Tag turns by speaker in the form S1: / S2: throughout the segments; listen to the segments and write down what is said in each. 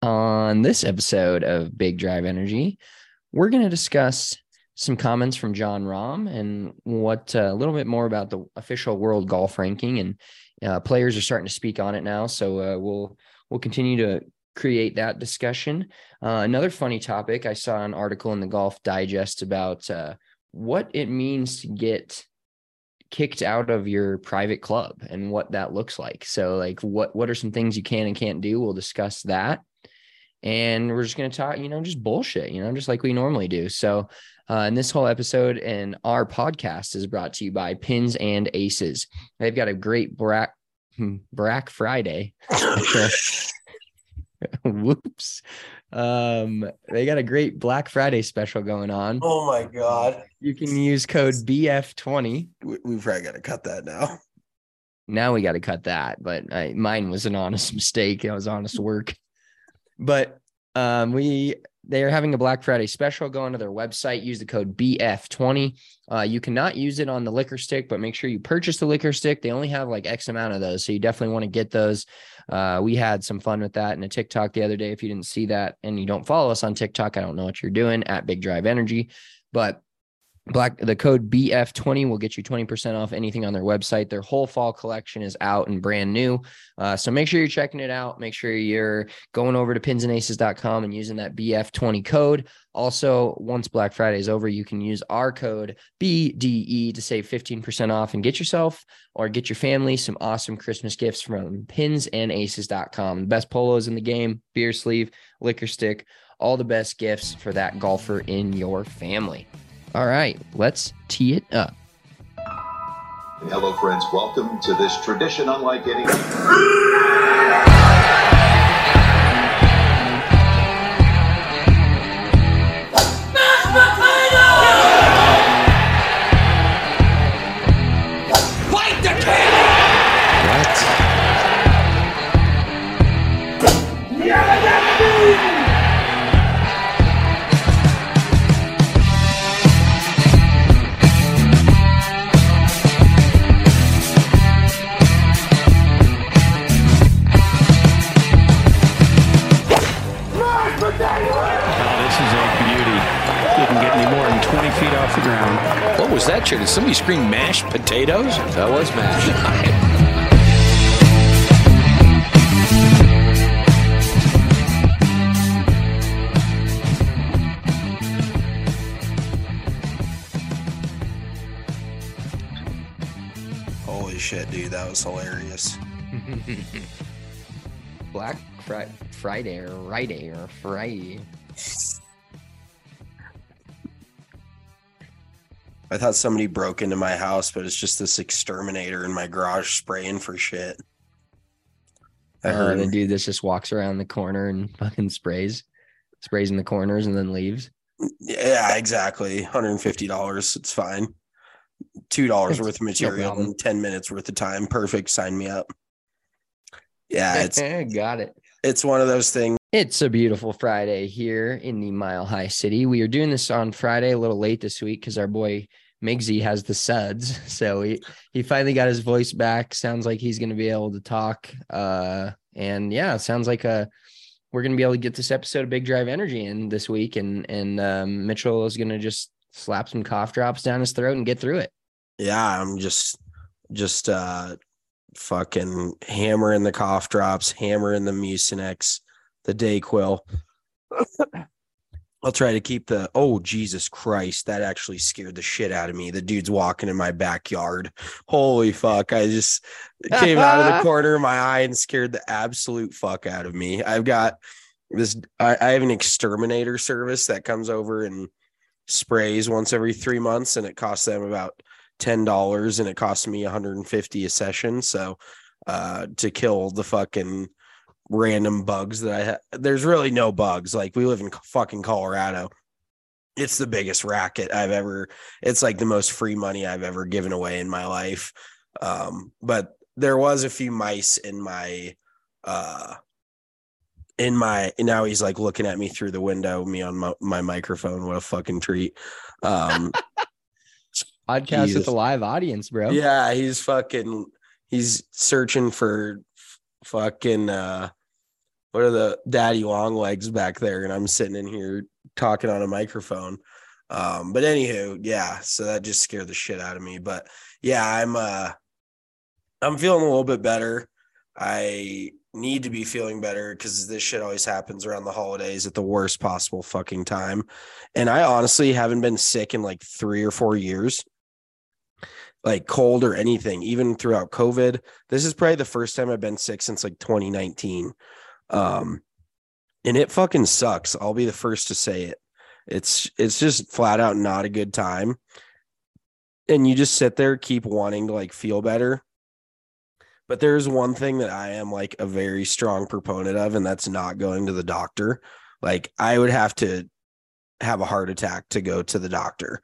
S1: On this episode of Big Drive Energy, we're going to discuss some comments from Jon Rahm and what a little bit more about the official world golf ranking, and players are starting to speak on it now. So we'll continue to create that discussion. Another funny topic, I saw an article in the Golf Digest about what it means to get kicked out of your private club and what that looks like. So like what are some things you can and can't do? We'll discuss that. And we're just going to talk, just bullshit, just like we normally do. So in this whole episode and our podcast is brought to you by Pins and Aces. They've got a great Black Friday. Whoops. They got a great Black Friday special going on.
S2: Oh my God.
S1: You can use code BF20.
S2: We probably got to cut that now.
S1: Now we got to cut that, but mine was an honest mistake. It was honest work. But they are having a Black Friday special. Go onto their website, use the code BF20. You cannot use it on the liquor stick, but make sure you purchase the liquor stick. They only have like X amount of those, so you definitely want to get those. We had some fun with that in a TikTok the other day. If you didn't see that and you don't follow us on TikTok, I don't know what you're doing at Big Drive Energy, but the code BF20 will get you 20% off anything on their website. Their whole fall collection is out and brand new. So make sure you're checking it out. Make sure you're going over to pinsandaces.com and using that BF20 code. Also, once Black Friday is over, you can use our code BDE to save 15% off and get yourself or get your family some awesome Christmas gifts from pinsandaces.com. The best polos in the game, beer sleeve, liquor stick, all the best gifts for that golfer in your family. All right, let's tee it up.
S3: Hello, friends. Welcome to this tradition unlike any.
S4: Bite the can!
S5: What was that, Chair? Did somebody scream mashed potatoes?
S4: That was mashed.
S2: Holy shit, dude. That was hilarious.
S1: Black Friday or Friday.
S2: I thought somebody broke into my house, but it's just this exterminator in my garage spraying for shit. I heard
S1: The dude that just walks around the corner and fucking sprays in the corners and then leaves.
S2: Yeah, exactly. $150. It's fine. $2 worth of material and 10 minutes worth of time. Perfect. Sign me up. Yeah, it's
S1: got it.
S2: It's one of those things.
S1: It's a beautiful Friday here in the Mile High City. We are doing this on Friday, a little late this week because our boy Migsy has the suds. So he finally got his voice back. Sounds like he's going to be able to talk. And yeah, it sounds like we're going to be able to get this episode of Big Drive Energy in this week. And Mitchell is going to just slap some cough drops down his throat and get through it.
S2: Yeah, I'm just fucking hammering the cough drops, hammering the Mucinex, the Dayquil. I'll try to keep oh, Jesus Christ. That actually scared the shit out of me. The dude's walking in my backyard. Holy fuck. I just came out of the corner of my eye and scared the absolute fuck out of me. I've got this. I have an exterminator service that comes over and sprays once every 3 months, and it costs them about $10, and it costs me $150 a session. So to kill the fucking random bugs that I have. There's really no bugs. Like, we live in fucking Colorado. It's the biggest racket it's like the most free money I've ever given away in my life. But there was a few mice in my now he's like looking at me through the window, me on my microphone. What a fucking treat.
S1: Podcast with a live audience, bro.
S2: Yeah, he's searching for fucking what are the daddy long legs back there? And I'm sitting in here talking on a microphone. But anywho, yeah, so that just scared the shit out of me. But yeah, I'm feeling a little bit better. I need to be feeling better because this shit always happens around the holidays at the worst possible fucking time. And I honestly haven't been sick in like 3 or 4 years, like cold or anything, even throughout COVID. This is probably the first time I've been sick since like 2019. And it fucking sucks. I'll be the first to say it. It's just flat out not a good time. And you just sit there, keep wanting to like feel better. But there's one thing that I am like a very strong proponent of, and that's not going to the doctor. Like I would have to have a heart attack to go to the doctor,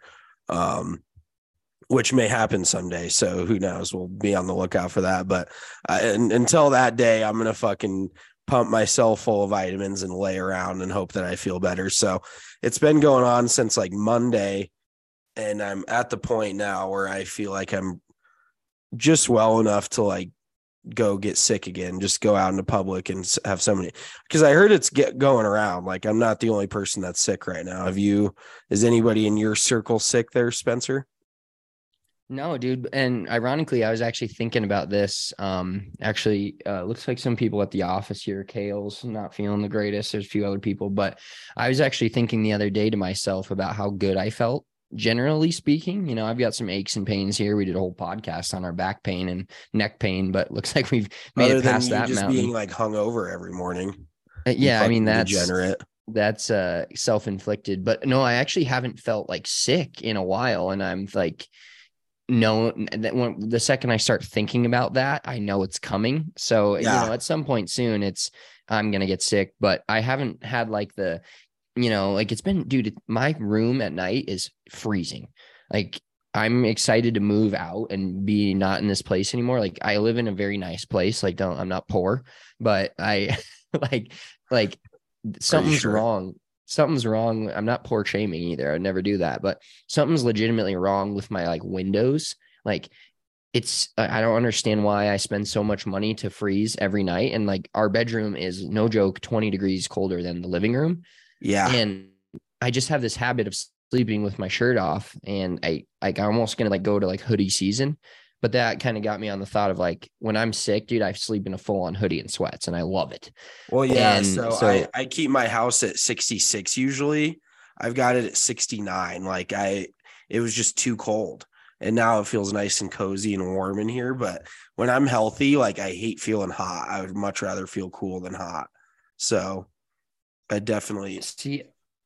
S2: which may happen someday. So who knows? We'll be on the lookout for that. But until that day, I'm going to fucking pump myself full of vitamins and lay around and hope that I feel better. So it's been going on since like Monday. And I'm at the point now where I feel like I'm just well enough to like go get sick again, just go out into public and have somebody, because I heard it's going around. Like I'm not the only person that's sick right now. Is anybody in your circle sick there, Spencer?
S1: No, dude. And ironically, I was actually thinking about this. Looks like some people at the office here, Kale's not feeling the greatest. There's a few other people, but I was actually thinking the other day to myself about how good I felt. Generally speaking, you know, I've got some aches and pains here. We did a whole podcast on our back pain and neck pain, but looks like we've made it past that mountain.
S2: Being like hungover every morning.
S1: Yeah, I mean, that's
S2: degenerate.
S1: That's self-inflicted. But no, I actually haven't felt like sick in a while, and I'm like, no, that when the second I start thinking about that, I know it's coming. So yeah. You know, at some point soon, I'm gonna get sick. But I haven't had like the, you know, like it's been, dude, my room at night is freezing. Like I'm excited to move out and be not in this place anymore. Like I live in a very nice place. Like I'm not poor, but I like something's wrong. Something's wrong. I'm not poor shaming either. I would never do that, but something's legitimately wrong with my like windows. Like I don't understand why I spend so much money to freeze every night. And like our bedroom is, no joke, 20 degrees colder than the living room.
S2: Yeah.
S1: And I just have this habit of sleeping with my shirt off, and I'm almost going to like go to like hoodie season, but that kind of got me on the thought of like, when I'm sick, dude, I sleep in a full on hoodie and sweats and I love it.
S2: Well, yeah. And so I keep my house at 66. Usually I've got it at 69. Like it was just too cold, and now it feels nice and cozy and warm in here. But when I'm healthy, like I hate feeling hot. I would much rather feel cool than hot. So I definitely
S1: see.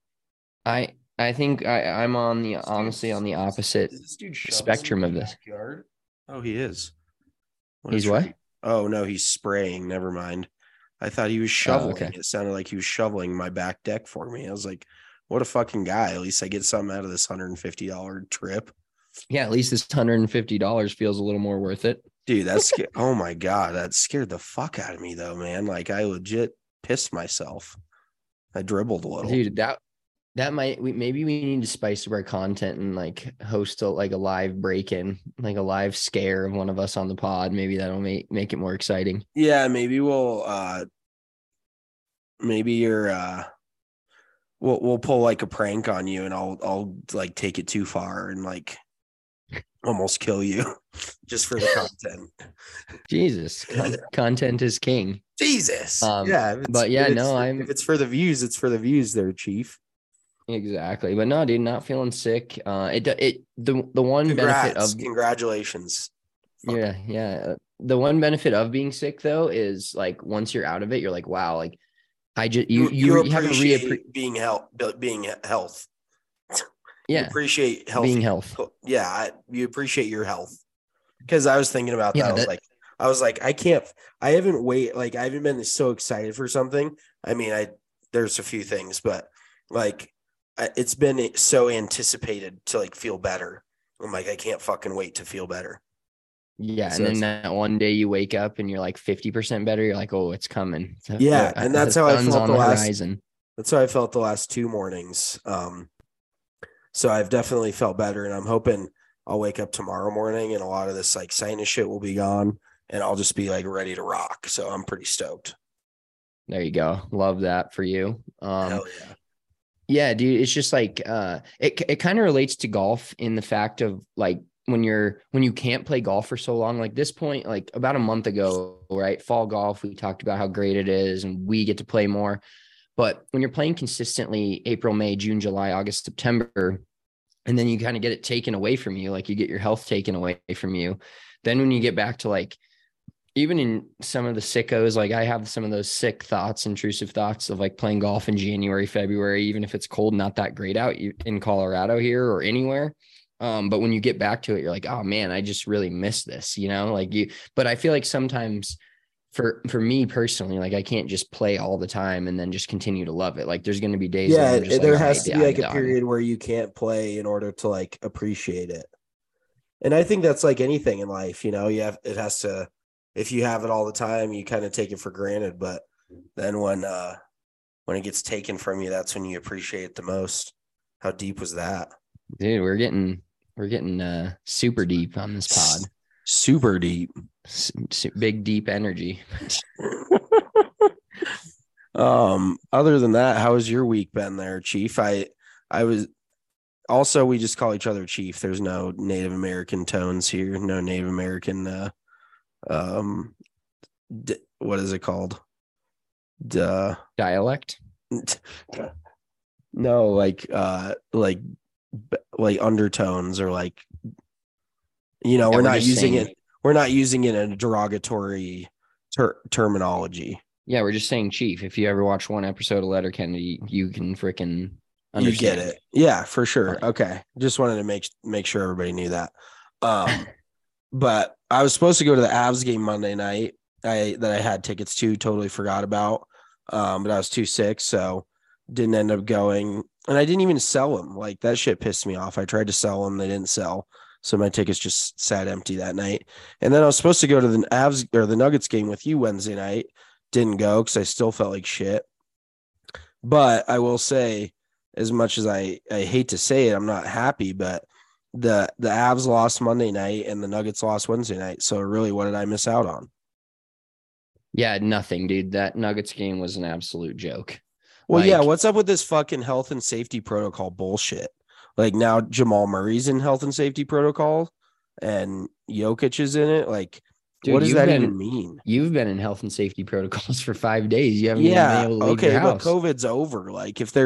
S1: I think I'm honestly on the opposite spectrum of this.
S2: Backyard? Oh, he is.
S1: He's what?
S2: Oh no, he's spraying. Never mind. I thought he was shoveling.
S1: Oh, okay.
S2: It sounded like he was shoveling my back deck for me. I was like, what a fucking guy. At least I get something out of this $150 trip.
S1: Yeah, at least this $150 feels a little more worth it.
S2: Dude, oh my God, that scared the fuck out of me though, man. Like I legit pissed myself. I dribbled a little.
S1: Dude, maybe we need to spice up our content and like host a live break-in, like a live scare of one of us on the pod. Maybe that'll make it more exciting.
S2: Yeah, maybe we'll pull like a prank on you, and I'll like take it too far and like almost kill you just for the content.
S1: Jesus, content is king.
S2: Jesus.
S1: Yeah, but yeah, no,
S2: if it's for the views, it's for the views there, Chief.
S1: Exactly. But no, dude, not feeling sick. The one benefit of
S2: congratulations.
S1: Yeah. The one benefit of being sick though is like once you're out of it, you're like, wow, like I just you
S2: appreciate being health.
S1: Yeah.
S2: You appreciate health.
S1: Being health.
S2: Yeah, you appreciate your health. Because I was thinking about that. I was like, I haven't been so excited for something. I mean, there's a few things, but like it's been so anticipated to like feel better. I'm like, I can't fucking wait to feel better.
S1: Yeah. So, and then that one day you wake up and you're like 50% better. You're like, oh, it's coming. So,
S2: yeah. And that's how I felt
S1: horizon.
S2: That's how I felt the last 2 mornings. So I've definitely felt better, and I'm hoping I'll wake up tomorrow morning and a lot of this like sinus shit will be gone, and I'll just be like ready to rock. So I'm pretty stoked.
S1: There you go. Love that for you.
S2: Hell yeah.
S1: Yeah, dude, it's just like it kind of relates to golf in the fact of like when you can't play golf for so long, like this point, like about a month ago, right? Fall golf, we talked about how great it is and we get to play more. But when you're playing consistently April, May, June, July, August, September, and then you kind of get it taken away from you, like you get your health taken away from you. Then when you get back to like even in some of the sickos, like I have some of those sick thoughts, intrusive thoughts of like playing golf in January, February, even if it's cold, not that great out in Colorado here or anywhere. But when you get back to it, you're like, oh man, I just really miss this, but I feel like sometimes for me personally, like I can't just play all the time and then just continue to love it. Like there's going to be days.
S2: Yeah.
S1: Just
S2: there
S1: like,
S2: has to be like a
S1: done.
S2: period where you can't play in order to like appreciate it. And I think that's like anything in life, it has to, if you have it all the time, you kind of take it for granted. But then when it gets taken from you, that's when you appreciate it the most. How deep was that?
S1: Dude, we're getting super deep on this pod.
S2: Super deep.
S1: Big, deep energy.
S2: Other than that, how has your week been there, Chief? I was also, we just call each other Chief. There's no Native American tones here. No Native American, what is it called?
S1: Dialect?
S2: No, like undertones or like, we're not using it. We're not using it in a derogatory terminology.
S1: Yeah, we're just saying Chief. If you ever watch one episode of Letterkenny, you can freaking understand.
S2: You get it. Yeah, for sure. Okay. Just wanted to make sure everybody knew that. But I was supposed to go to the Avs game Monday night. I had tickets to, totally forgot about. But I was too sick, so didn't end up going. And I didn't even sell them. Like that shit pissed me off. I tried to sell them, they didn't sell. So my tickets just sat empty that night. And then I was supposed to go to the Avs or the Nuggets game with you Wednesday night. Didn't go because I still felt like shit. But I will say, as much as I hate to say it, I'm not happy, but the Avs lost Monday night and the Nuggets lost Wednesday night. So really, what did I miss out on?
S1: Yeah, nothing, dude. That Nuggets game was an absolute joke.
S2: Well, yeah, what's up with this fucking health and safety protocol bullshit? Like now Jamal Murray's in health and safety protocol and Jokic is in it. Like, dude, what does that even mean?
S1: You've been in health and safety protocols for 5 days. You haven't even been able to leave your house.
S2: But COVID's over. Like if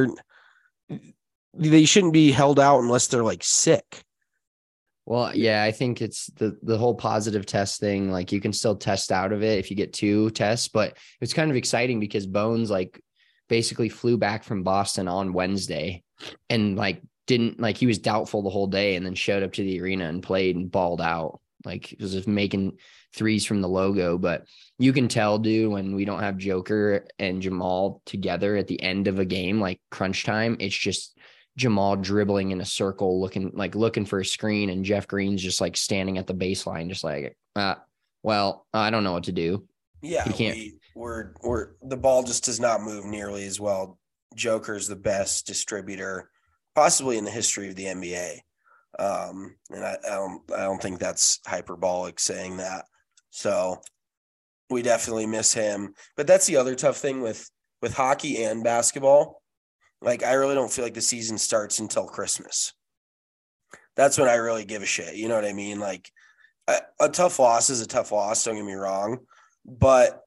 S2: they shouldn't be held out unless they're like sick.
S1: Well, yeah, I think it's the whole positive test thing. Like you can still test out of it if you get 2 tests, but it's kind of exciting because Bones like basically flew back from Boston on Wednesday and like didn't like he was doubtful the whole day and then showed up to the arena and played and balled out. Like it was just making threes from the logo, but you can tell, dude, when we don't have Joker and Jamal together at the end of a game, like crunch time, it's just Jamal dribbling in a circle, looking for a screen. And Jeff Green's just like standing at the baseline, just like, well, I don't know what to do.
S2: Yeah.
S1: He can't.
S2: We're the ball just does not move nearly as well. Joker's the best distributor possibly in the history of the NBA. And I don't think that's hyperbolic saying that. So we definitely miss him, but that's the other tough thing with hockey and basketball. Like, I really don't feel like the season starts until Christmas. That's when I really give a shit. You know what I mean? Like a tough loss is a tough loss. Don't get me wrong, but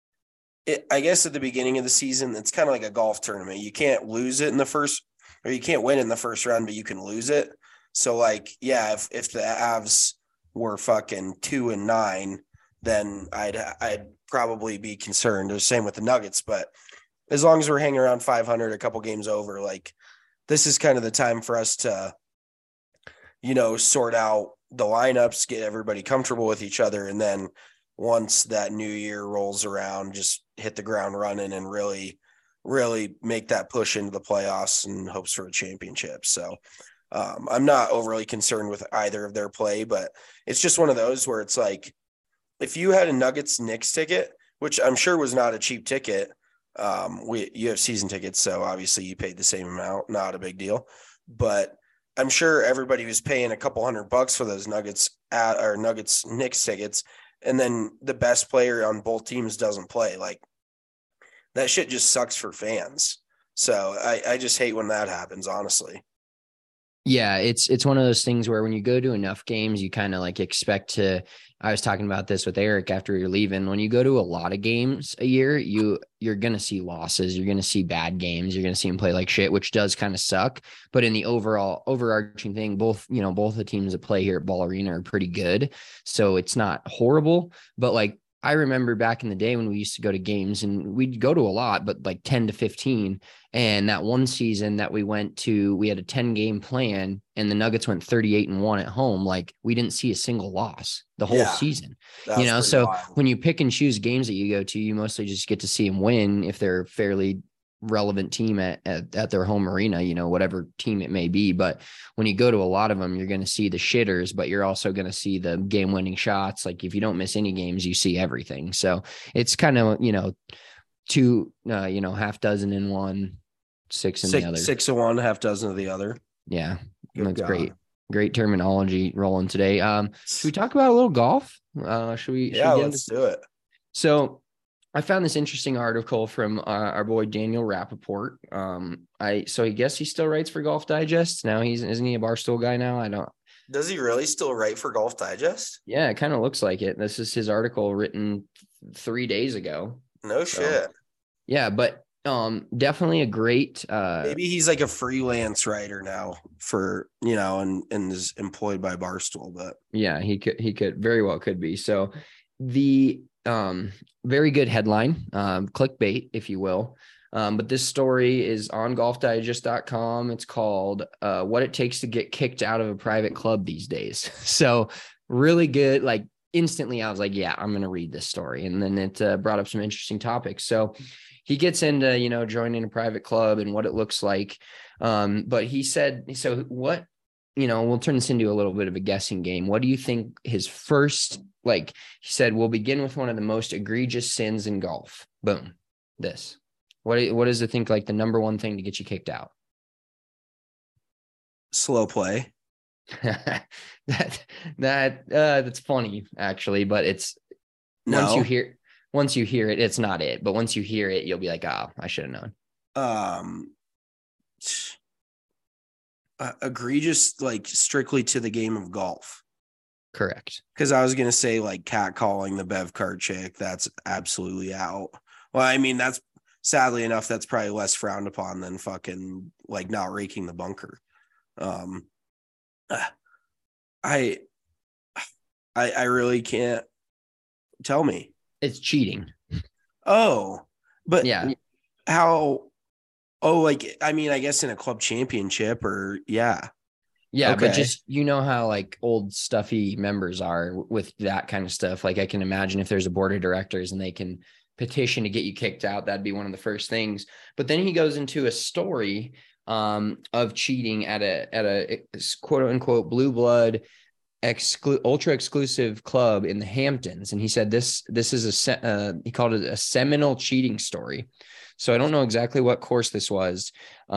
S2: I guess at the beginning of the season, it's kind of like a golf tournament. You can't lose it in the first, or you can't win in the first round, but you can lose it. So like, yeah, if the Avs were fucking 2-9, then I'd probably be concerned. The same with the Nuggets, but as long as we're hanging around 500, a couple games over, like this is kind of the time for us to, sort out the lineups, get everybody comfortable with each other. And then once that new year rolls around, just hit the ground running and really, really make that push into the playoffs and hopes for a championship. So I'm not overly concerned with either of their play, but it's just one of those where it's like, if you had a Nuggets Knicks ticket, which I'm sure was not a cheap ticket, you have season tickets, so obviously you paid the same amount, not a big deal. But I'm sure everybody was paying a couple $100 for those Nuggets Knicks tickets, and then the best player on both teams doesn't play. Like, that shit just sucks for fans. So I just hate when that happens, honestly.
S1: Yeah, it's one of those things where when you go to enough games, you kind of like expect to. I was talking about this with Eric after you're leaving. When you go to a lot of games a year, you're gonna see losses. You're gonna see bad games. You're gonna see them play like shit, which does kind of suck. But in the overall overarching thing, both the teams that play here at Ball Arena are pretty good. So it's not horrible. But like I remember back in the day when we used to go to games, and we'd go to a lot, but like 10 to 15. And that one season that we went to, we had a 10-game plan and the Nuggets went 38-1 at home. Like we didn't see a single loss the whole season, so wild. When you pick and choose games that you go to, you mostly just get to see them win if they're a fairly relevant team at their home arena, whatever team it may be. But when you go to a lot of them, you're going to see the shitters, but you're also going to see the game winning shots. Like if you don't miss any games, you see everything. So it's kind of, two, half dozen in one, six in the other.
S2: 6 of one, half dozen of the other.
S1: Yeah. That's great. Great terminology rolling today. Should we talk about a little golf? Should we
S2: let's do it.
S1: So I found this interesting article from our boy Daniel Rappaport. So I guess he still writes for Golf Digest now. Isn't he a Barstool guy now?
S2: Does he really still write for Golf Digest?
S1: Yeah, it kind of looks like it. This is his article written 3 days ago.
S2: No shit.
S1: Yeah, but definitely a great.
S2: Maybe he's like a freelance writer now for and is employed by Barstool. But
S1: yeah, he could very well could be. So the very good headline, clickbait, if you will. But this story is on golfdigest.com. It's called What It Takes to Get Kicked Out of a Private Club These Days. So really good. Like instantly I was like, yeah, I'm going to read this story. And then it brought up some interesting topics. So he gets into, joining a private club and what it looks like. But he said, so what, we'll turn this into a little bit of a guessing game. What do you think his first, he said, we'll begin with one of the most egregious sins in golf. Boom. This. What does it think like the number one thing to get you kicked out?
S2: Slow play.
S1: That's funny actually, but it's once you hear it, it's not it. But once you hear it, you'll be like, oh, I should have known.
S2: Egregious, like strictly to the game of golf.
S1: Correct.
S2: Because I was gonna say like catcalling the bev card chick. That's absolutely out. Well, I mean, that's sadly enough, that's probably less frowned upon than fucking like not raking the bunker. I really can't. Tell me.
S1: It's cheating.
S2: Oh, but
S1: yeah.
S2: How? Oh, like, I mean, I guess in a club championship or yeah.
S1: Yeah. Okay. But just, how like old stuffy members are with that kind of stuff. Like I can imagine if there's a board of directors and they can petition to get you kicked out, that'd be one of the first things. But then he goes into a story of cheating at a quote unquote blue blood ultra exclusive club in the Hamptons. And he said, this is he called it a seminal cheating story. So I don't know exactly what course this was.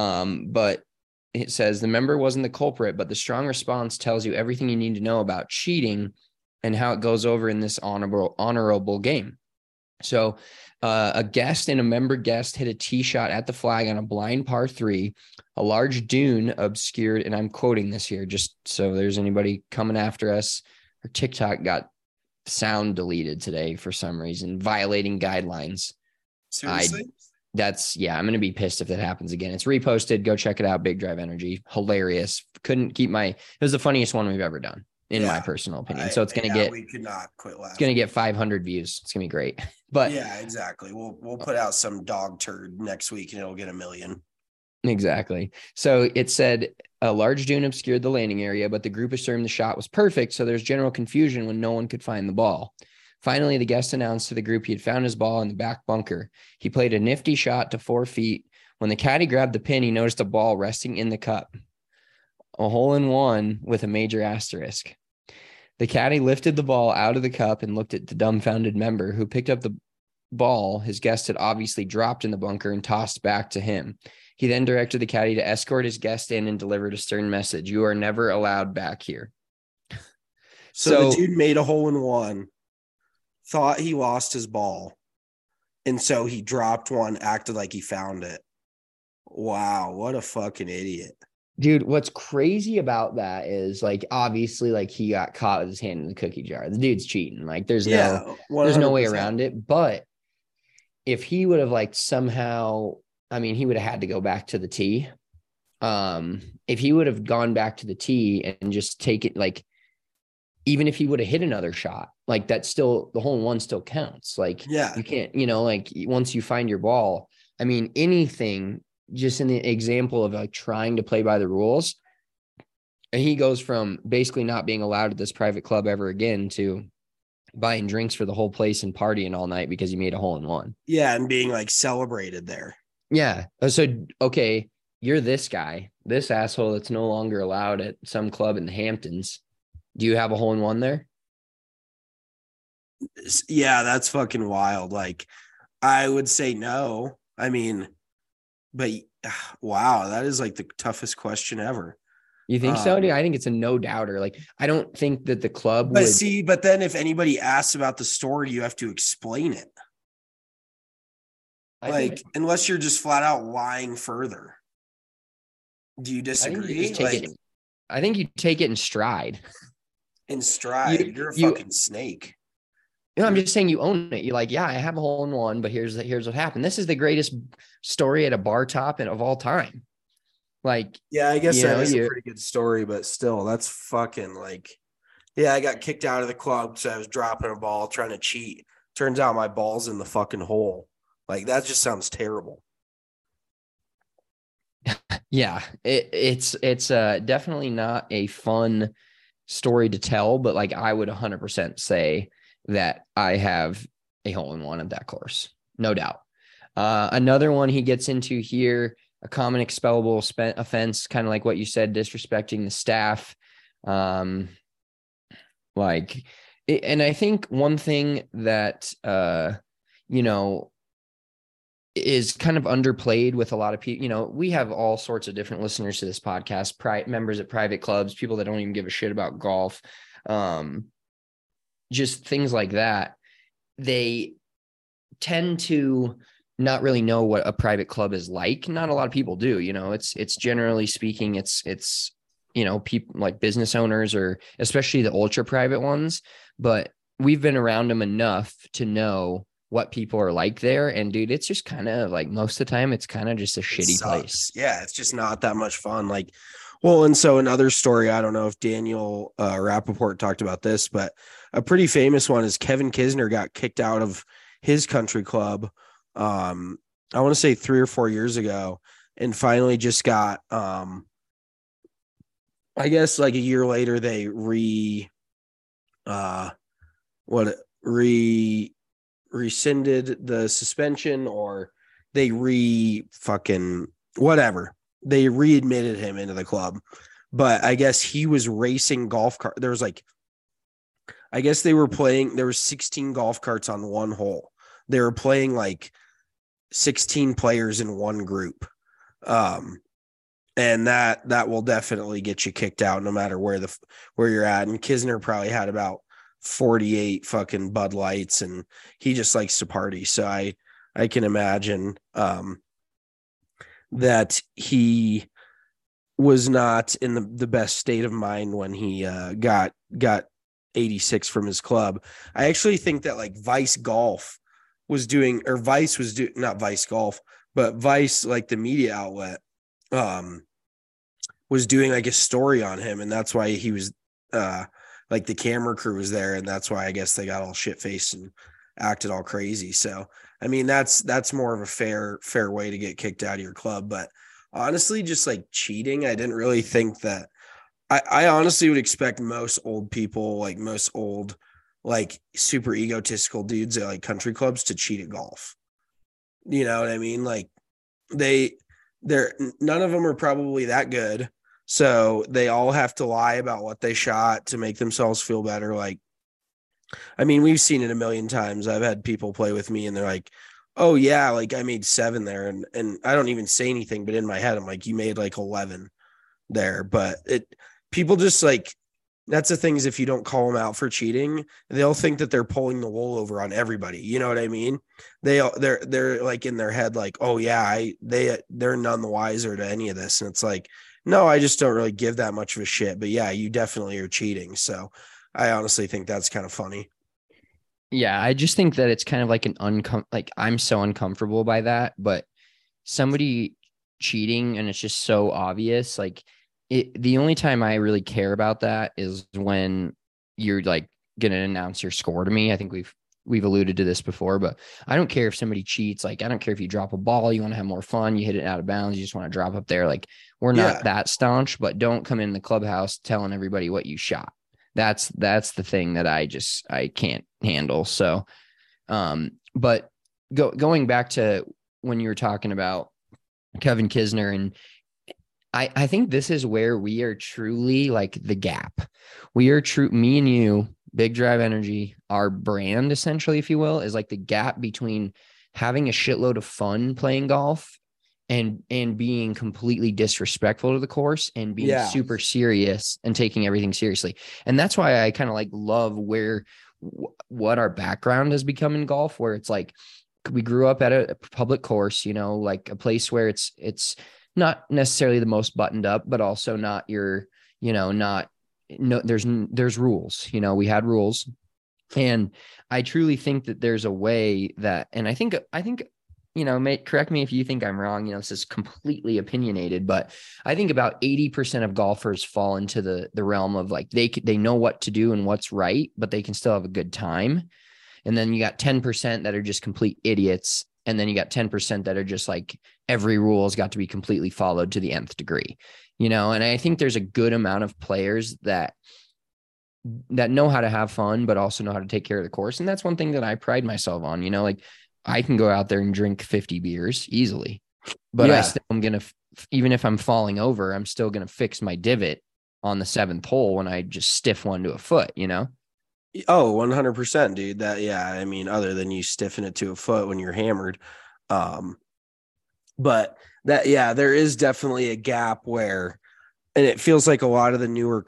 S1: But it says the member wasn't the culprit, but the strong response tells you everything you need to know about cheating and how it goes over in this honorable game. So a guest and a member guest hit a tee shot at the flag on a blind par 3. A large dune obscured, and I'm quoting this here just so there's anybody coming after us. Our TikTok got sound deleted today for some reason, violating guidelines.
S2: Seriously?
S1: I'm going to be pissed if that happens again. It's reposted. Go check it out. Big Drive Energy. Hilarious. It was the funniest one we've ever done, in my personal opinion. So it's going to
S2: we could not quit laughing.
S1: It's going to get 500 views. It's going to be great. But
S2: yeah, exactly. We'll put out some dog turd next week and it'll get 1 million.
S1: Exactly. So it said a large dune obscured the landing area, but the group assumed the shot was perfect. So there's general confusion when no one could find the ball. Finally, the guest announced to the group he had found his ball in the back bunker. He played a nifty shot to 4 feet. When the caddy grabbed the pin, he noticed a ball resting in the cup. A hole in one with a major asterisk. The caddy lifted the ball out of the cup and looked at the dumbfounded member, who picked up the ball his guest had obviously dropped in the bunker and tossed back to him. He then directed the caddy to escort his guest in and delivered a stern message. You are never allowed back here.
S2: So the dude made a hole in one, thought he lost his ball, And so he dropped one, acted like he found it. Wow, what a fucking idiot.
S1: Dude, what's crazy about that is like obviously like he got caught with his hand in the cookie jar. The dude's cheating. Like there's no way
S2: 100%.
S1: around it. But if he would have like somehow, I mean, he would have had to go back to the tee. If he would have gone back to the tee and just take it, like even if he would have hit another shot, like that's still the hole in one still counts. Like you can't, like once you find your ball, I mean, anything just in the example of like trying to play by the rules. And he goes from basically not being allowed at this private club ever again to buying drinks for the whole place and partying all night because he made a hole in one.
S2: Yeah. And being like celebrated there.
S1: Yeah. So, okay, you're this guy, this asshole that's no longer allowed at some club in the Hamptons. Do you have a hole in one there?
S2: Yeah, that's fucking wild. Like, I would say no. I mean, but wow, that is like the toughest question ever.
S1: You think so? Dude, I think it's a no doubter. Like, I don't think that the club
S2: would. But then if anybody asks about the story, you have to explain it. Unless you're just flat out lying further. Do you disagree?
S1: I think you take it in stride.
S2: In stride? You're a fucking snake.
S1: You know, I'm just saying you own it. You're like, yeah, I have a hole in one, but here's what happened. This is the greatest story at a bar top of all time. Like,
S2: yeah, I guess that is a pretty good story, but still, that's fucking like, yeah, I got kicked out of the club because I was dropping a ball trying to cheat. Turns out my ball's in the fucking hole. Like, that just sounds terrible.
S1: Yeah, it's definitely not a fun story to tell, but like I would 100% say that I have a hole in one at that course, no doubt. Another one he gets into here, a common expellable offense, kind of like what you said, disrespecting the staff. And I think one thing that is kind of underplayed with a lot of people. We have all sorts of different listeners to this podcast, members at private clubs, people that don't even give a shit about golf, just things like that. They tend to not really know what a private club is like. Not a lot of people do, it's generally speaking, it's people like business owners or especially the ultra private ones, but we've been around them enough to know what people are like there. And dude, it's just kind of like most of the time, it's kind of just a shitty place.
S2: Yeah. It's just not that much fun. Like, well, and so another story, I don't know if Daniel Rappaport talked about this, but a pretty famous one is Kevin Kisner got kicked out of his country club. I want to say 3 or 4 years ago, and finally just got, I guess like a year later, they rescinded the suspension, or they they readmitted him into the club. But I guess he was racing golf cart. There was there were 16 golf carts on one hole. They were playing like 16 players in one group. And that will definitely get you kicked out no matter where you're at. And Kisner probably had about 48 fucking Bud Lights, and he just likes to party. So I can imagine that he was not in the best state of mind when he got 86 from his club. I actually think that like Vice, like the media outlet, was doing like a story on him, and that's why he was like the camera crew was there, and that's why I guess they got all shit-faced and acted all crazy. So, I mean, that's more of a fair way to get kicked out of your club. But honestly, just like cheating, I didn't really think that. I honestly would expect most old people, like most old, like super egotistical dudes at like country clubs to cheat at golf. You know what I mean? Like none of them are probably that good. So they all have to lie about what they shot to make themselves feel better. Like, I mean, we've seen it a million times. I've had people play with me and they're like, oh yeah, like I made 7 there. And I don't even say anything, but in my head, I'm like, you made like 11 there. But people just like That's the thing, is if you don't call them out for cheating, they'll think that they're pulling the wool over on everybody. You know what I mean? They're like in their head, like, oh yeah, they're none the wiser to any of this. And it's like, no, I just don't really give that much of a shit. But yeah, you definitely are cheating. So I honestly think that's kind of funny.
S1: Yeah, I just think that it's kind of like like I'm so uncomfortable by that, but somebody cheating and it's just so obvious. Like the only time I really care about that is when you're like going to announce your score to me. I think we've alluded to this before, but I don't care if somebody cheats. Like, I don't care if you drop a ball, you want to have more fun, you hit it out of bounds, you just want to drop up there. Like, we're not that staunch, but don't come in the clubhouse telling everybody what you shot. That's the thing that I can't handle. So, but going back to when you were talking about Kevin Kisner, and I think this is where we are truly like the gap. We are me and you, Big Drive Energy, our brand, essentially, if you will, is like the gap between having a shitload of fun playing golf and being completely disrespectful to the course and being super serious and taking everything seriously. And that's why I kind of like love what our background has become in golf, where it's like we grew up at a public course, you know, like a place where it's not necessarily the most buttoned up, but also not your, you know, there's rules, you know, we had rules. And I truly think that there's a way that, and I think, you know, correct me if you think I'm wrong, you know, this is completely opinionated, but I think about 80% of golfers fall into the realm of like, they know what to do and what's right, but they can still have a good time. And then you got 10% that are just complete idiots. And then you got 10% that are just like, every rule has got to be completely followed to the nth degree, you know? And I think there's a good amount of players that know how to have fun, but also know how to take care of the course. And that's one thing that I pride myself on, you know, like I can go out there and drink 50 beers easily, but I'm going to, even if I'm falling over, I'm still going to fix my divot on the 7th hole when I just stiff one to a foot, you know?
S2: Oh, 100%, dude. I mean, other than you stiffen it to a foot when you're hammered. But there is definitely a gap where, and it feels like a lot of the newer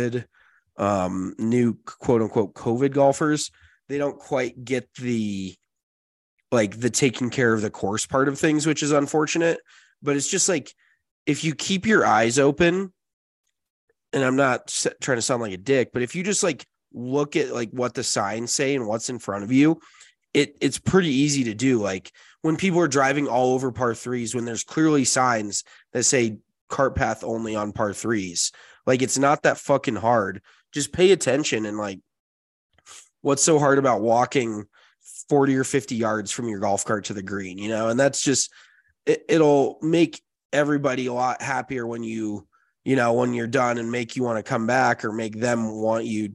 S2: new quote unquote COVID golfers, they don't quite get the taking care of the course part of things, which is unfortunate. But it's just like, if you keep your eyes open, and I'm not trying to sound like a dick, but if you just like look at like what the signs say and what's in front of you, it's pretty easy to do. Like when people are driving all over par 3s, when there's clearly signs that say cart path only on par 3s, like it's not that fucking hard. Just pay attention. And like, what's so hard about walking 40 or 50 yards from your golf cart to the green, you know? And that's just, it'll make everybody a lot happier when you know, when you're done, and make you want to come back, or make them want you.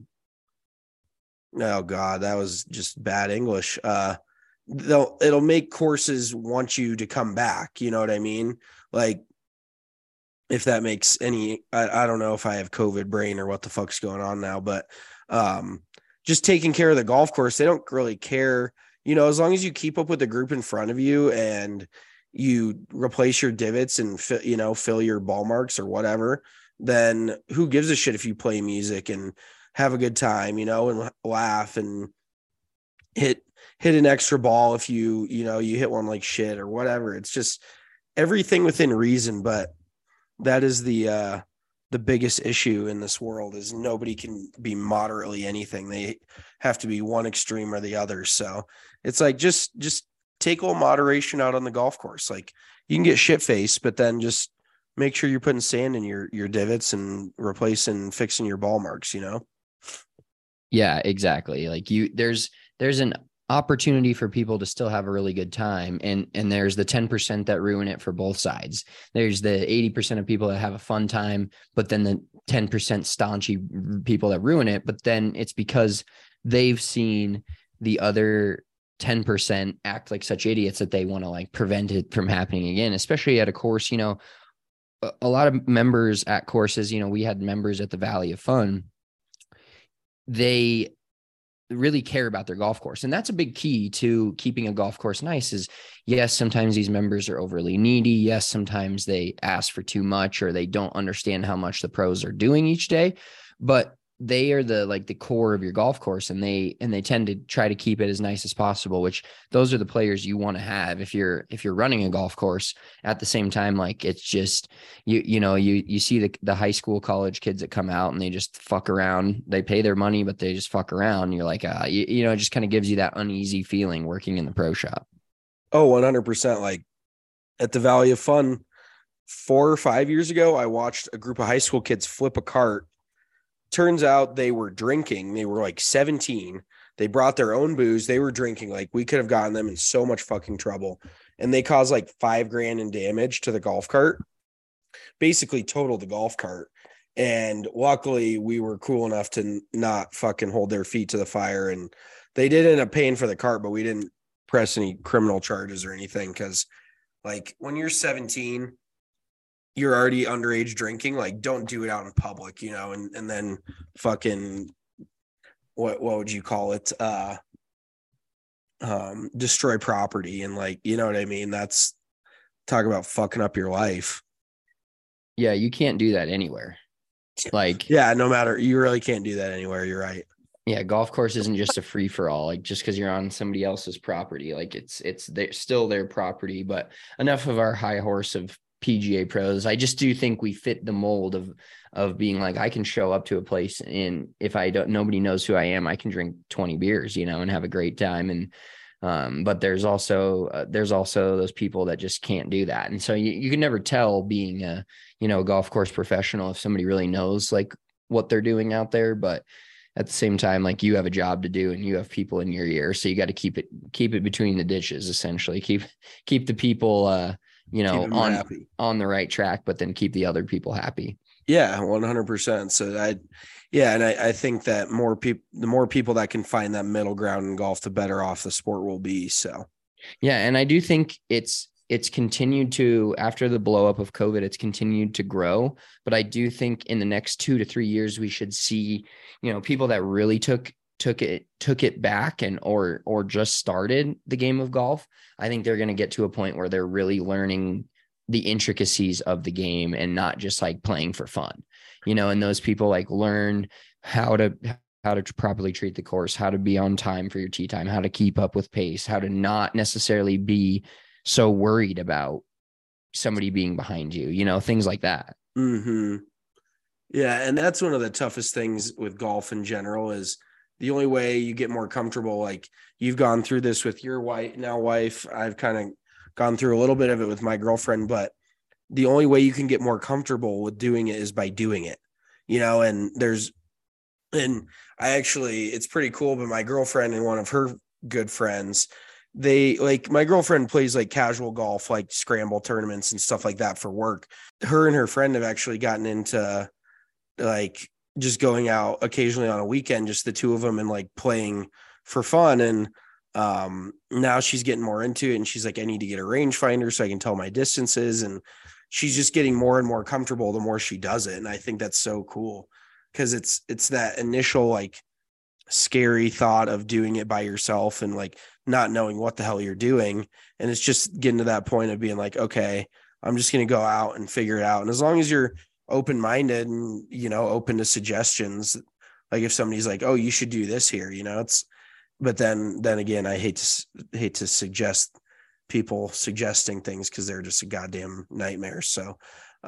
S2: Oh God, that was just bad English. It'll make courses want you to come back. You know what I mean? Like, if that makes any, I don't know if I have COVID brain or what the fuck's going on now, but just taking care of the golf course, they don't really care. You know, as long as you keep up with the group in front of you and you replace your divots and fill your ball marks or whatever, then who gives a shit if you play music and have a good time, you know, and laugh and hit an extra ball if you hit one like shit or whatever. It's just everything within reason. But that is the biggest issue in this world, is nobody can be moderately anything. They have to be one extreme or the other. So it's like, just take a little moderation out on the golf course. Like, you can get shit faced, but then just make sure you're putting sand in your divots and replacing, fixing your ball marks, you know?
S1: Yeah, exactly. Like there's an opportunity for people to still have a really good time. And there's the 10% that ruin it for both sides. There's the 80% of people that have a fun time, but then the 10% staunchy people that ruin it. But then it's because they've seen the other 10% act like such idiots that they want to like prevent it from happening again, especially at a course. You know, a lot of members at courses, you know, we had members at the Valley of Fun. They really care about their golf course. And that's a big key to keeping a golf course nice. Is yes, sometimes these members are overly needy. Yes, sometimes they ask for too much, or they don't understand how much the pros are doing each day. But they are the core of your golf course, and they tend to try to keep it as nice as possible, which those are the players you want to have if you're running a golf course. At the same time, like, it's just, you see the high school, college kids that come out and they just fuck around. They pay their money, but they just fuck around. You're like, it just kind of gives you that uneasy feeling working in the pro shop.
S2: Oh, 100%. Like at the Valley of Fun 4 or 5 years ago, I watched a group of high school kids flip a cart. Turns out they were drinking. They were like 17. They brought their own booze. They were drinking. Like, we could have gotten them in so much fucking trouble. And they caused like $5,000 in damage to the golf cart, basically totaled the golf cart. And luckily we were cool enough to not fucking hold their feet to the fire. And they did end up paying for the cart, but we didn't press any criminal charges or anything. Cause like when you're 17, you're already underage drinking. Like, don't do it out in public, and then fucking what would you call it? Destroy property. And like, you know what I mean? That's, talk about fucking up your life.
S1: Yeah. You can't do that anywhere. Like,
S2: yeah, no matter, you really can't do that anywhere. You're right.
S1: Yeah, golf course isn't just a free for all. Like, just because you're on somebody else's property, like it's still their property. But enough of our high horse of PGA pros. I just do think we fit the mold of being like, I can show up to a place, and if nobody knows who I am, I can drink 20 beers, and have a great time. And but there's also those people that just can't do that. And so you can never tell, being a golf course professional, if somebody really knows like what they're doing out there. But at the same time, like, you have a job to do and you have people in your ear. So you got to keep it between the ditches, essentially. Keep the people, on the right track, but then keep the other people happy.
S2: Yeah, 100%. So I think that the more people that can find that middle ground in golf, the better off the sport will be. So,
S1: yeah. And I do think it's continued to, after the blow up of COVID, it's continued to grow. But I do think in the next 2 to 3 years, we should see, people that really took it back or just started the game of golf. I think they're going to get to a point where they're really learning the intricacies of the game and not just like playing for fun, and those people like learn how to properly treat the course, how to be on time for your tee time, how to keep up with pace, how to not necessarily be so worried about somebody being behind you, things like that.
S2: Mm-hmm. Yeah. And that's one of the toughest things with golf in general, is the only way you get more comfortable. Like, you've gone through this with your wife. I've kind of gone through a little bit of it with my girlfriend, but the only way you can get more comfortable with doing it is by doing it, and it's pretty cool. But my girlfriend and one of her good friends, my girlfriend plays like casual golf, like scramble tournaments and stuff like that for work. Her and her friend have actually gotten into like just going out occasionally on a weekend, just the two of them, and like playing for fun. And now she's getting more into it, and she's like, I need to get a rangefinder so I can tell my distances. And she's just getting more and more comfortable the more she does it. And I think that's so cool, because it's that initial like scary thought of doing it by yourself and like not knowing what the hell you're doing. And it's just getting to that point of being like, okay, I'm just going to go out and figure it out. And as long as you're open-minded and, open to suggestions, like if somebody's like, oh, you should do this here, but then again, I hate to suggest people suggesting things, because they're just a goddamn nightmare. So,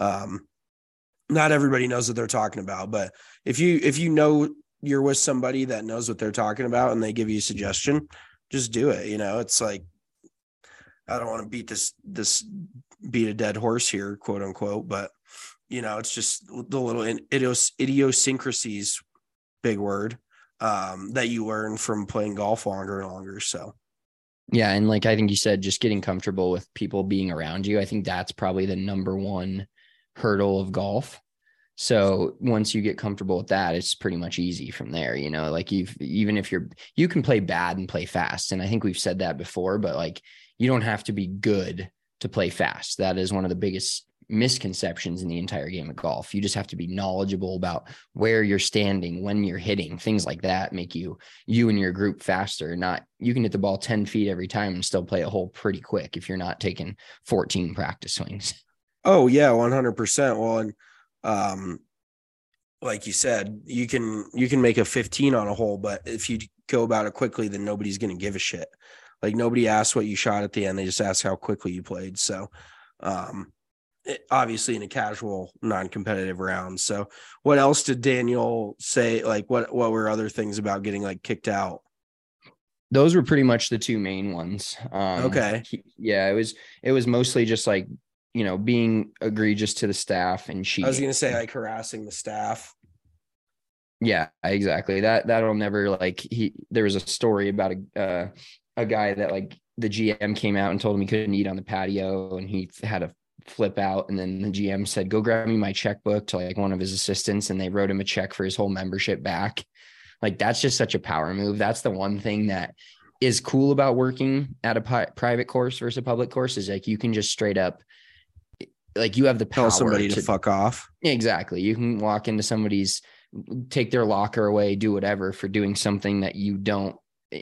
S2: not everybody knows what they're talking about, but if you know you're with somebody that knows what they're talking about and they give you a suggestion, just do it. It's like, I don't want to beat a dead horse here, quote unquote, but it's just the little idiosyncrasies, big word, that you learn from playing golf longer and longer. So,
S1: yeah. And like, I think you said, just getting comfortable with people being around you. I think that's probably the number one hurdle of golf. So once you get comfortable with that, it's pretty much easy from there. Like, you can play bad and play fast. And I think we've said that before, but like, you don't have to be good to play fast. That is one of the biggest misconceptions in the entire game of golf. You just have to be knowledgeable about where you're standing, when you're hitting, things like that make you and your group faster. You can hit the ball 10 feet every time and still play a hole pretty quick if you're not taking 14 practice swings.
S2: Oh yeah, 100%. Well, and like you said, you can make a 15 on a hole, but if you go about it quickly, then nobody's going to give a shit. Like nobody asks what you shot at the end. They just ask how quickly you played. So, obviously in a casual, non-competitive round. So what else did Daniel say? Like what were other things about getting like kicked out?
S1: Those were pretty much the two main ones.
S2: Okay.
S1: It was mostly just like, being egregious to the staff and cheating.
S2: I was going to say like harassing the staff.
S1: Yeah, exactly. That'll never there was a story about a guy that like the GM came out and told him he couldn't eat on the patio and he had a flip out. And then the GM said, go grab me my checkbook to like one of his assistants. And they wrote him a check for his whole membership back. Like, that's just such a power move. That's the one thing that is cool about working at a private course versus a public course is like, you can just straight up, like you have the power
S2: tell somebody to fuck off.
S1: Exactly. You can walk into somebody's, take their locker away, do whatever for doing something that you don't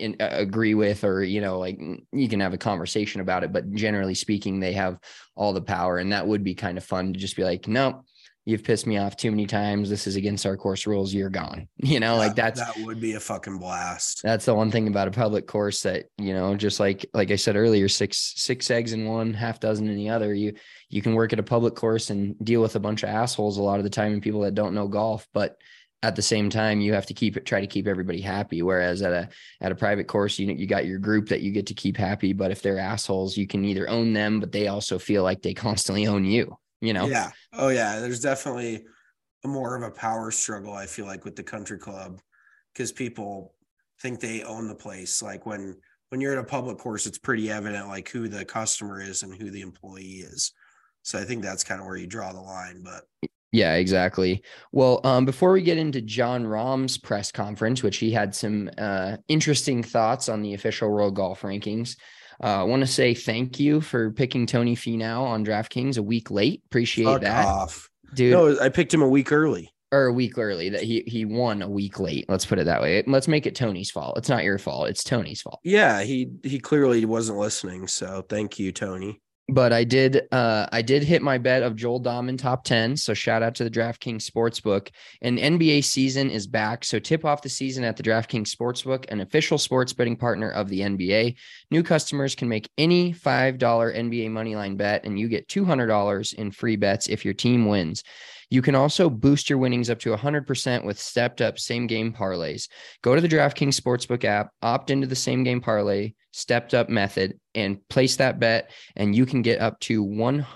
S1: agree with, or, like you can have a conversation about it, but generally speaking, they have all the power. And that would be kind of fun to just be like, no, you've pissed me off too many times. This is against our course rules. You're gone. That
S2: would be a fucking blast.
S1: That's the one thing about a public course that, just like I said earlier, six eggs in one, half dozen in the other. You can work at a public course and deal with a bunch of assholes a lot of the time and people that don't know golf, but at the same time, you have to try to keep everybody happy. Whereas at a private course, you got your group that you get to keep happy. But if they're assholes, you can either own them, but they also feel like they constantly own you,
S2: Yeah. Oh yeah. There's definitely more of a power struggle, I feel like, with the country club, because people think they own the place. Like when you're at a public course, it's pretty evident like who the customer is and who the employee is. So I think that's kind of where you draw the line, but
S1: yeah, exactly. Well, before we get into Jon Rahm's press conference, which he had some interesting thoughts on the official World Golf Rankings, I want to say thank you for picking Tony Finau on DraftKings a week late. Appreciate
S2: fuck
S1: that,
S2: off,
S1: dude.
S2: No, I picked him a week early.
S1: Or a week early. That he won a week late. Let's put it that way. Let's make it Tony's fault. It's not your fault. It's Tony's fault.
S2: Yeah, he clearly wasn't listening. So thank you, Tony.
S1: But I did hit my bet of Joel Dahman top 10. So shout out to the DraftKings Sportsbook. And NBA season is back. So tip off the season at the DraftKings Sportsbook, an official sports betting partner of the NBA. New customers can make any $5 NBA moneyline bet, and you get $200 in free bets if your team wins. You can also boost your winnings up to 100% with stepped up same game parlays. Go to the DraftKings Sportsbook app, opt into the same game parlay, stepped up method, and place that bet, and you can get up to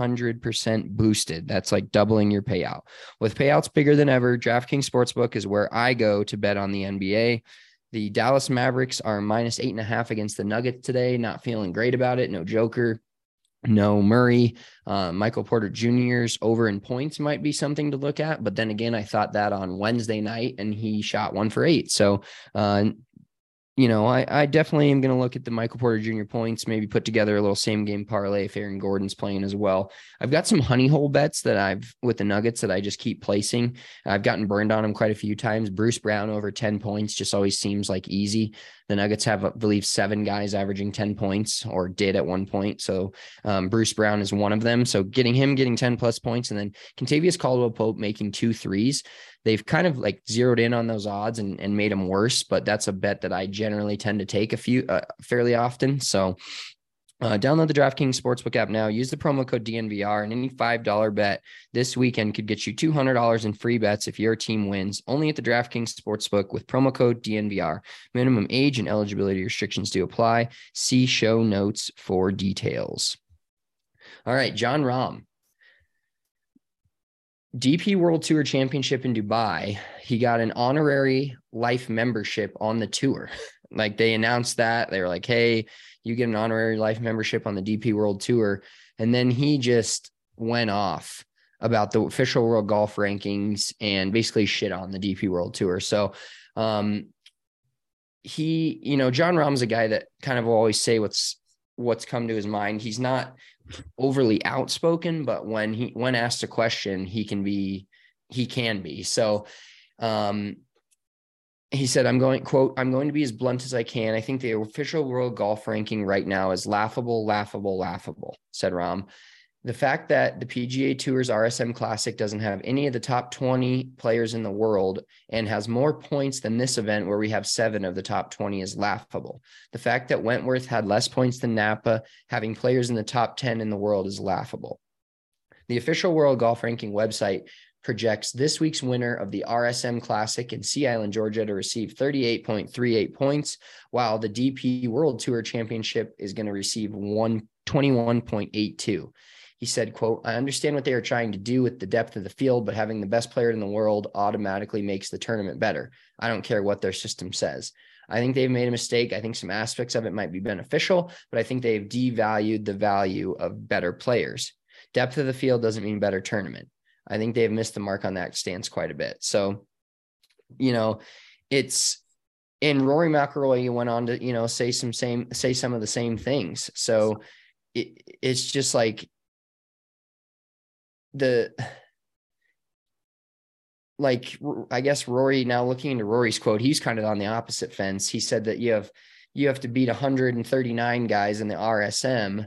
S1: 100% boosted. That's like doubling your payout. With payouts bigger than ever, DraftKings Sportsbook is where I go to bet on the NBA. The Dallas Mavericks are -8.5 against the Nuggets today. Not feeling great about it. No Joker. No Murray. Michael Porter Jr.'s over in points might be something to look at. But then again, I thought that on Wednesday night and he shot 1 for 8. So, I definitely am going to look at the Michael Porter Jr. points, maybe put together a little same game parlay if Aaron Gordon's playing as well. I've got some honey hole bets with the Nuggets that I just keep placing. I've gotten burned on them quite a few times. Bruce Brown over 10 points just always seems like easy. The Nuggets have, I believe, 7 guys averaging 10 points, or did at one point. So Bruce Brown is one of them. So getting 10 plus points, and then Kentavious Caldwell-Pope making 2 threes. They've kind of like zeroed in on those odds and made them worse, but that's a bet that I generally tend to take fairly often. So download the DraftKings Sportsbook app now. Use the promo code DNVR, and any $5 bet this weekend could get you $200 in free bets if your team wins. Only at the DraftKings Sportsbook with promo code DNVR. Minimum age and eligibility restrictions do apply. See show notes for details. All right, Jon Rahm. DP World Tour Championship in Dubai. He got an honorary life membership on the tour. Like, they announced that. They were like, hey, you get an honorary life membership on the DP World Tour. And then he just went off about the official World Golf Rankings and basically shit on the DP World Tour. So Jon Rahm's a guy that kind of will always say what's come to his mind. He's not overly outspoken, but when asked a question, he can be. So he said, I'm going to be as blunt as I can. I think the official World Golf Ranking right now is laughable, said Rahm. The fact that the PGA Tour's RSM Classic doesn't have any of the top 20 players in the world and has more points than this event where we have 7 of the top 20 is laughable. The fact that Wentworth had less points than Napa, having players in the top 10 in the world, is laughable. The official World Golf Ranking website projects this week's winner of the RSM Classic in Sea Island, Georgia, to receive 38.38 points, while the DP World Tour Championship is going to receive 121.82. He said, quote, I understand what they are trying to do with the depth of the field, but having the best player in the world automatically makes the tournament better. I don't care what their system says. I think they've made a mistake. I think some aspects of it might be beneficial, but I think they've devalued the value of better players. Depth of the field doesn't mean better tournament. I think they've missed the mark on that stance quite a bit. So, it's in Rory McIlroy, you went on to, say some of the same things. So it's just like, I guess Rory, now looking into Rory's quote, he's kind of on the opposite fence. He said that you have to beat 139 guys in the RSM,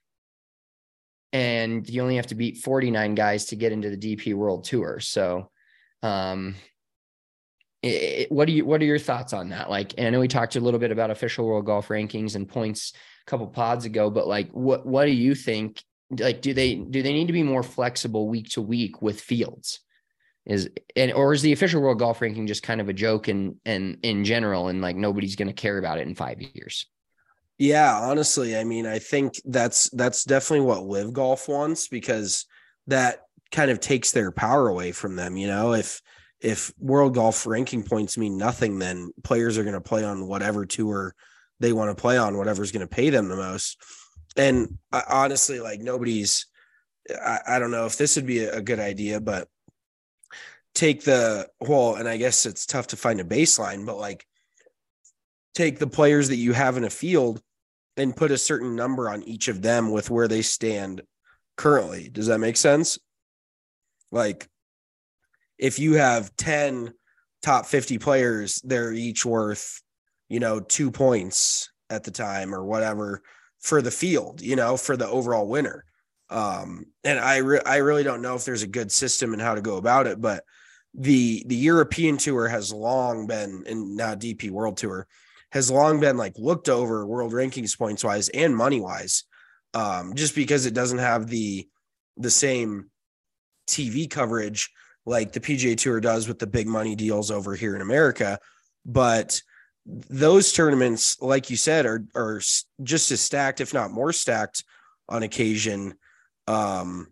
S1: and you only have to beat 49 guys to get into the DP World Tour. So, what are your thoughts on that? Like, and I know we talked a little bit about official World Golf Rankings and points a couple pods ago, but like, what do you think? Like, do they need to be more flexible week to week with fields? Or is the official World Golf Ranking just kind of a joke and in general, and like nobody's going to care about it in 5 years?
S2: Yeah, honestly, I mean, I think that's definitely what Live Golf wants, because that kind of takes their power away from them. If World Golf Ranking points mean nothing, then players are going to play on whatever tour they want to play on, whatever's going to pay them the most. And honestly, like I don't know if this would be a good idea, but take and I guess it's tough to find a baseline, but like take the players that you have in a field and put a certain number on each of them with where they stand currently. Does that make sense? Like if you have 10 top 50 players, they're each worth, 2 points at the time or whatever for the field, for the overall winner. And I really don't know if there's a good system and how to go about it, but the European Tour has long been, and now DP World Tour has long been like looked over world rankings points wise and money wise, just because it doesn't have the same TV coverage like the PGA Tour does with the big money deals over here in America. But those tournaments, like you said, are just as stacked, if not more stacked on occasion, than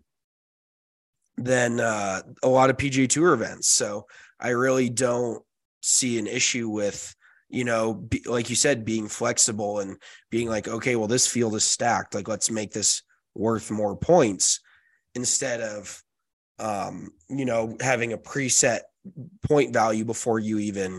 S2: a lot of PGA Tour events. So I really don't see an issue with, like you said, being flexible and being like, okay, well, this field is stacked. Like, let's make this worth more points instead of, having a preset point value before you even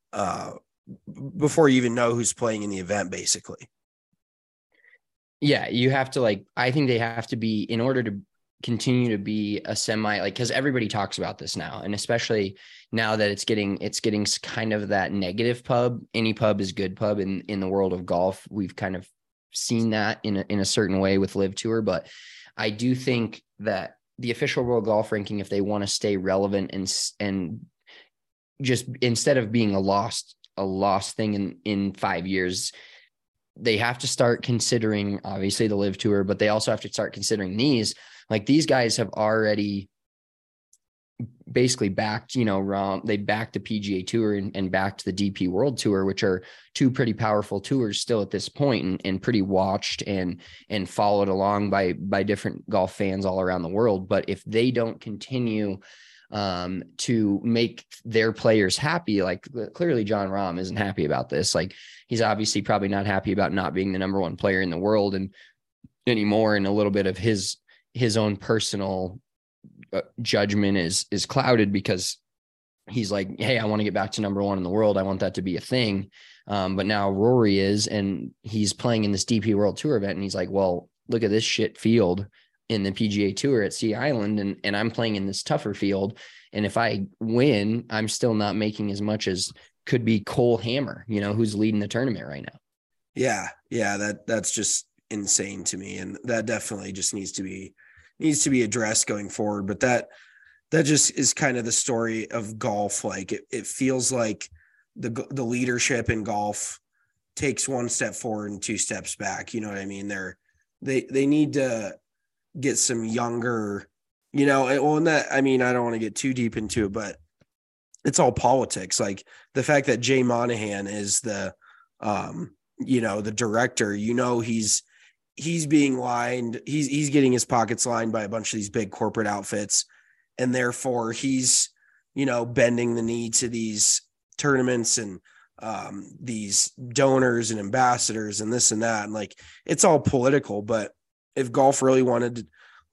S2: know who's playing in the event, basically.
S1: Yeah, you have to I think they have to be, in order to continue to be a semi, because everybody talks about this now, and especially now that it's getting kind of that negative pub. Any pub is good pub in the world of golf. We've kind of seen that in a certain way with Live Tour, but I do think that the official World Golf Ranking, if they want to stay relevant and just instead of being a lost thing in 5 years, they have to start considering obviously the Live Tour, but they also have to start considering these. Like, these guys have already basically backed, they backed the PGA Tour and backed the DP World Tour, which are two pretty powerful tours still at this point, and pretty watched and followed along by different golf fans all around the world. But if they don't continue to make their players happy, like clearly Jon Rahm isn't happy about this. Like, he's obviously probably not happy about not being the number one player in the world and anymore. And a little bit of his own personal judgment is clouded because he's like, hey, I want to get back to number one in the world. I want that to be a thing. But now Rory is, and he's playing in this DP World Tour event. And he's like, well, look at this shit field in the PGA Tour at Sea Island. And I'm playing in this tougher field. And if I win, I'm still not making as much as could be Cole Hammer, who's leading the tournament right now. Yeah.
S2: That's just insane to me. And that definitely just needs to be needs to be addressed going forward. But that just is kind of the story of golf. Like it feels like the leadership in golf takes one step forward and two steps back. You know what I mean? They need to get some younger, and that, I mean, I don't want to get too deep into it, but it's all politics. Like the fact that Jay Monahan is the director, he's being lined. He's getting his pockets lined by a bunch of these big corporate outfits. And therefore he's, bending the knee to these tournaments and these donors and ambassadors and this and that. And like, it's all political, but if golf really wanted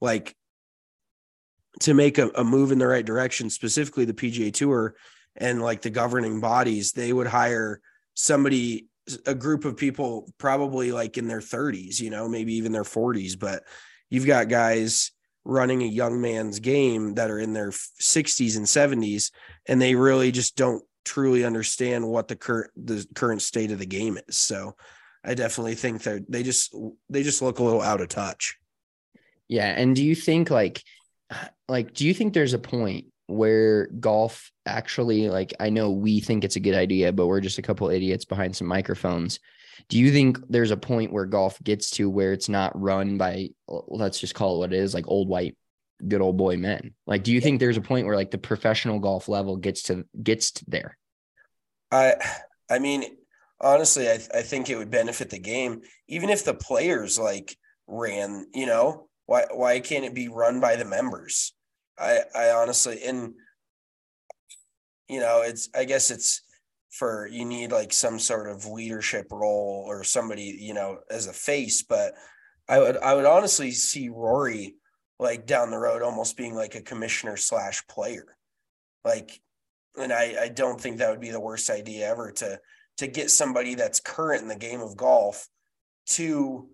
S2: to make a move in the right direction, specifically the PGA Tour and like the governing bodies, they would hire a group of people probably like in their 30s, maybe even their 40s, but you've got guys running a young man's game that are in their 60s and 70s, and they really just don't truly understand what the current state of the game is. So I definitely think that they just look a little out of touch.
S1: Yeah. And do you think do you think there's a point where golf actually, like, I know we think it's a good idea, but we're just a couple idiots behind some microphones. Do you think there's a point where golf gets to where it's not run by, let's just call it what it is, like old white, good old boy men? Like, do you think there's a point where like the professional golf level gets to there?
S2: I mean, honestly, I think it would benefit the game, even if the players like ran, why can't it be run by the members? I honestly, and I guess it's you need like some sort of leadership role or somebody, as a face, but I would honestly see Rory like down the road almost being like a commissioner / player. Like, and I don't think that would be the worst idea ever to get somebody that's current in the game of golf to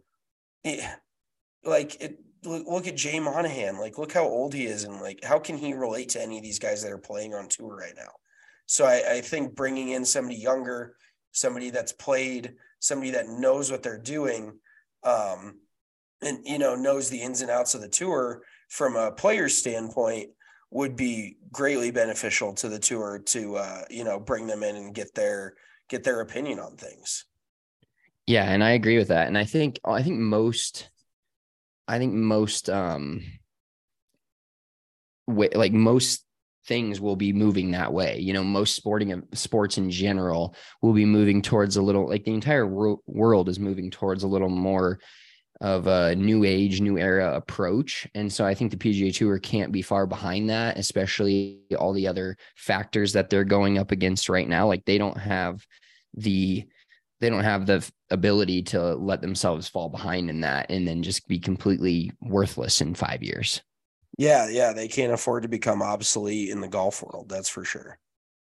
S2: look at Jay Monahan, like look how old he is and like how can he relate to any of these guys that are playing on tour right now? So I think bringing in somebody younger, somebody that's played, somebody that knows what they're doing, and knows the ins and outs of the tour from a player's standpoint would be greatly beneficial to the tour to bring them in and get their opinion on things.
S1: Yeah, and I agree with that. And I think most things will be moving that way. Most sports in general will be moving towards a little, like the entire world is moving towards a little more of a new age, new era approach. And so I think the PGA Tour can't be far behind that, especially all the other factors that they're going up against right now. Like they don't have the ability to let themselves fall behind in that and then just be completely worthless in 5 years.
S2: Yeah, they can't afford to become obsolete in the golf world. That's for sure.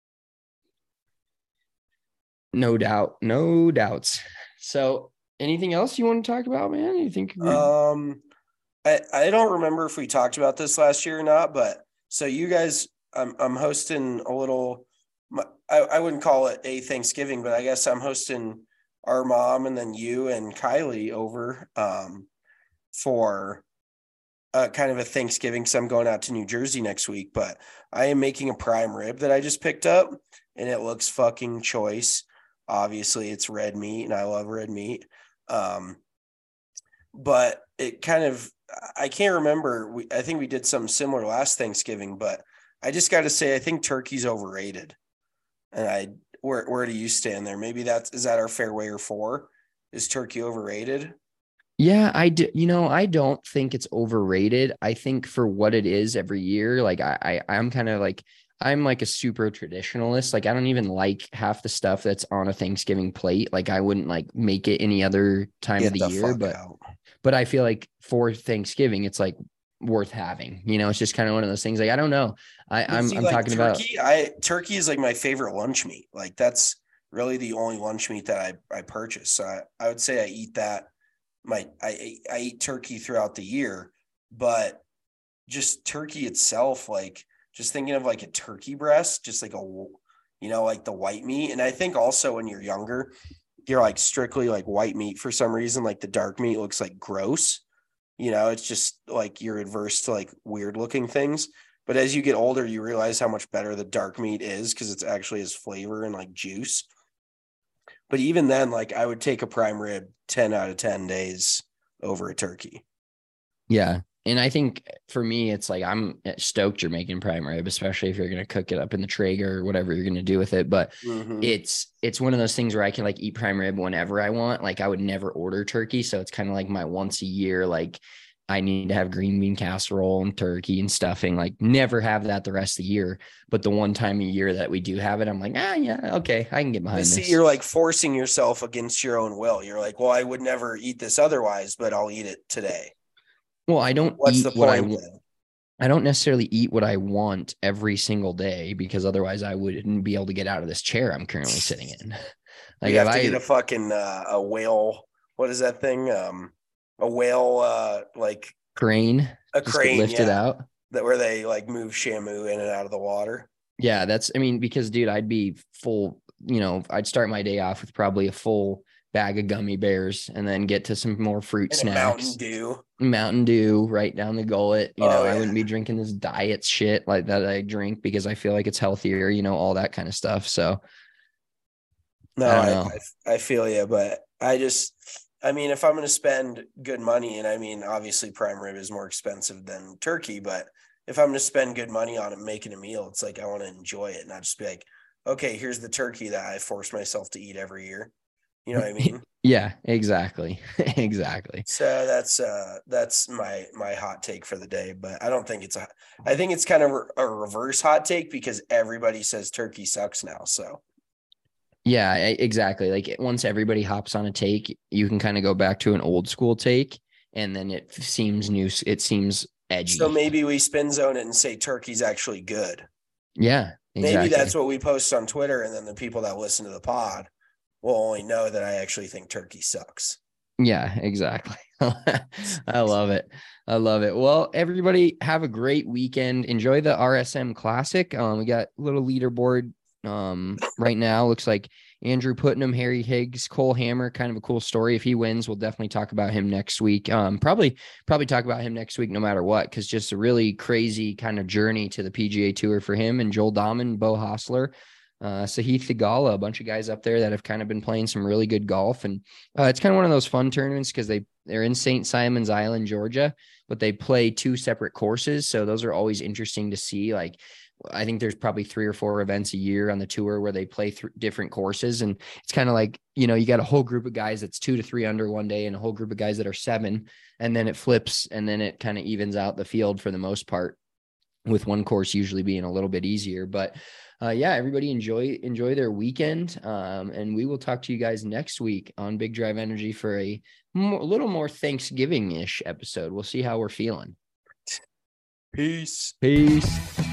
S1: No doubt. No doubts. So anything else you want to talk about, man? You think?
S2: I don't remember if we talked about this last year or not, but so you guys, I'm hosting a little, I wouldn't call it a Thanksgiving, but I guess I'm hosting our mom and then you and Kylie over for kind of a Thanksgiving. So I'm going out to New Jersey next week, but I am making a prime rib that I just picked up and it looks fucking choice. Obviously it's red meat and I love red meat. But it kind of, I can't remember. I think we did something similar last Thanksgiving, but I just got to say, I think turkey's overrated. And where do you stand there? Maybe is that our fairway or 4? Is turkey overrated?
S1: Yeah, I do. I don't think it's overrated. I think for what it is every year, like I'm kind of like, I'm like a super traditionalist. Like I don't even like half the stuff that's on a Thanksgiving plate. Like I wouldn't like make it any other time of the year, but I feel like for Thanksgiving, it's like worth having, it's just kind of one of those things. Like, I don't know. I'm like
S2: talking turkey, about turkey is like my favorite lunch meat. Like that's really the only lunch meat that I purchase. So I would say I eat that. I eat turkey throughout the year, but just turkey itself, like just thinking of like a turkey breast, just like like the white meat. And I think also when you're younger, you're like strictly like white meat for some reason, like the dark meat looks like gross, You know, it's just like you're adverse to like weird looking things. But as you get older, you realize how much better the dark meat is because it's actually has flavor and like juice. But even then, like I would take a prime rib 10 out of 10 days over a turkey.
S1: Yeah. And I think for me, it's like I'm stoked you're making prime rib, especially if you're going to cook it up in the Traeger or whatever you're going to do with it. But it's one of those things where I can like eat prime rib whenever I want. Like I would never order turkey. So it's kind of like my once a year, like I need to have green bean casserole and turkey and stuffing, like never have that the rest of the year. But the one time a year that we do have it, I'm like, yeah, okay, I can get behind this.
S2: See, you're like forcing yourself against your own will. You're like, well, I would never eat this otherwise, but I'll eat it today.
S1: Well, I don't
S2: What's
S1: eat
S2: the
S1: what I
S2: point
S1: want.
S2: then?
S1: I don't necessarily eat what I want every single day because otherwise I wouldn't be able to get out of this chair I'm currently sitting in. Like
S2: You have to get a fucking a whale. What is that thing? A whale, like
S1: crane,
S2: a
S1: just
S2: crane,
S1: get lifted out.
S2: that where they like move Shamu in and out of the water.
S1: Yeah, because dude, I'd be full, I'd start my day off with probably a full bag of gummy bears and then get to some more fruit
S2: And
S1: snacks.
S2: Mountain
S1: Dew right down the gullet.
S2: Yeah.
S1: I wouldn't be drinking this diet shit like that I drink because I feel like it's healthier, all that kind of stuff. So
S2: no, I feel you, but I mean, if I'm going to spend good money, and I mean, obviously prime rib is more expensive than turkey, but if I'm going to spend good money on it, making a meal, it's like, I want to enjoy it, not just be like, okay, here's the turkey that I force myself to eat every year. You know what I mean?
S1: Yeah, exactly. Exactly.
S2: So that's my hot take for the day, but I don't think I think it's kind of a reverse hot take because everybody says turkey sucks now. So
S1: yeah, exactly. Like once everybody hops on a take, you can kind of go back to an old school take and then it seems new. It seems edgy.
S2: So maybe we spin zone it and say turkey's actually good.
S1: Yeah, exactly.
S2: Maybe that's what we post on Twitter. And then the people that listen to the pod will only know that I actually think turkey sucks.
S1: Yeah, exactly. I love it. Well, everybody have a great weekend. Enjoy the RSM Classic. We got a little leaderboard right now. Looks like Andrew Putnam, Harry Higgs, Cole Hammer, kind of a cool story. If he wins, we'll definitely talk about him next week. Probably talk about him next week, no matter what, because just a really crazy kind of journey to the PGA Tour for him and Joel Dahman, Bo Hostler, Sahith Theegala, a bunch of guys up there that have kind of been playing some really good golf. And it's kind of one of those fun tournaments because they're in St. Simon's Island, Georgia, but they play two separate courses. So those are always interesting to see. Like, I think there's probably 3 or 4 events a year on the tour where they play different courses. And it's kind of like, you got a whole group of guys that's 2 to 3 under one day and a whole group of guys that are 7, and then it flips and then it kind of evens out the field for the most part, with one course usually being a little bit easier. But yeah, everybody enjoy their weekend. And we will talk to you guys next week on Big Drive Energy for a little more Thanksgiving-ish episode. We'll see how we're feeling.
S2: Peace.
S1: Peace.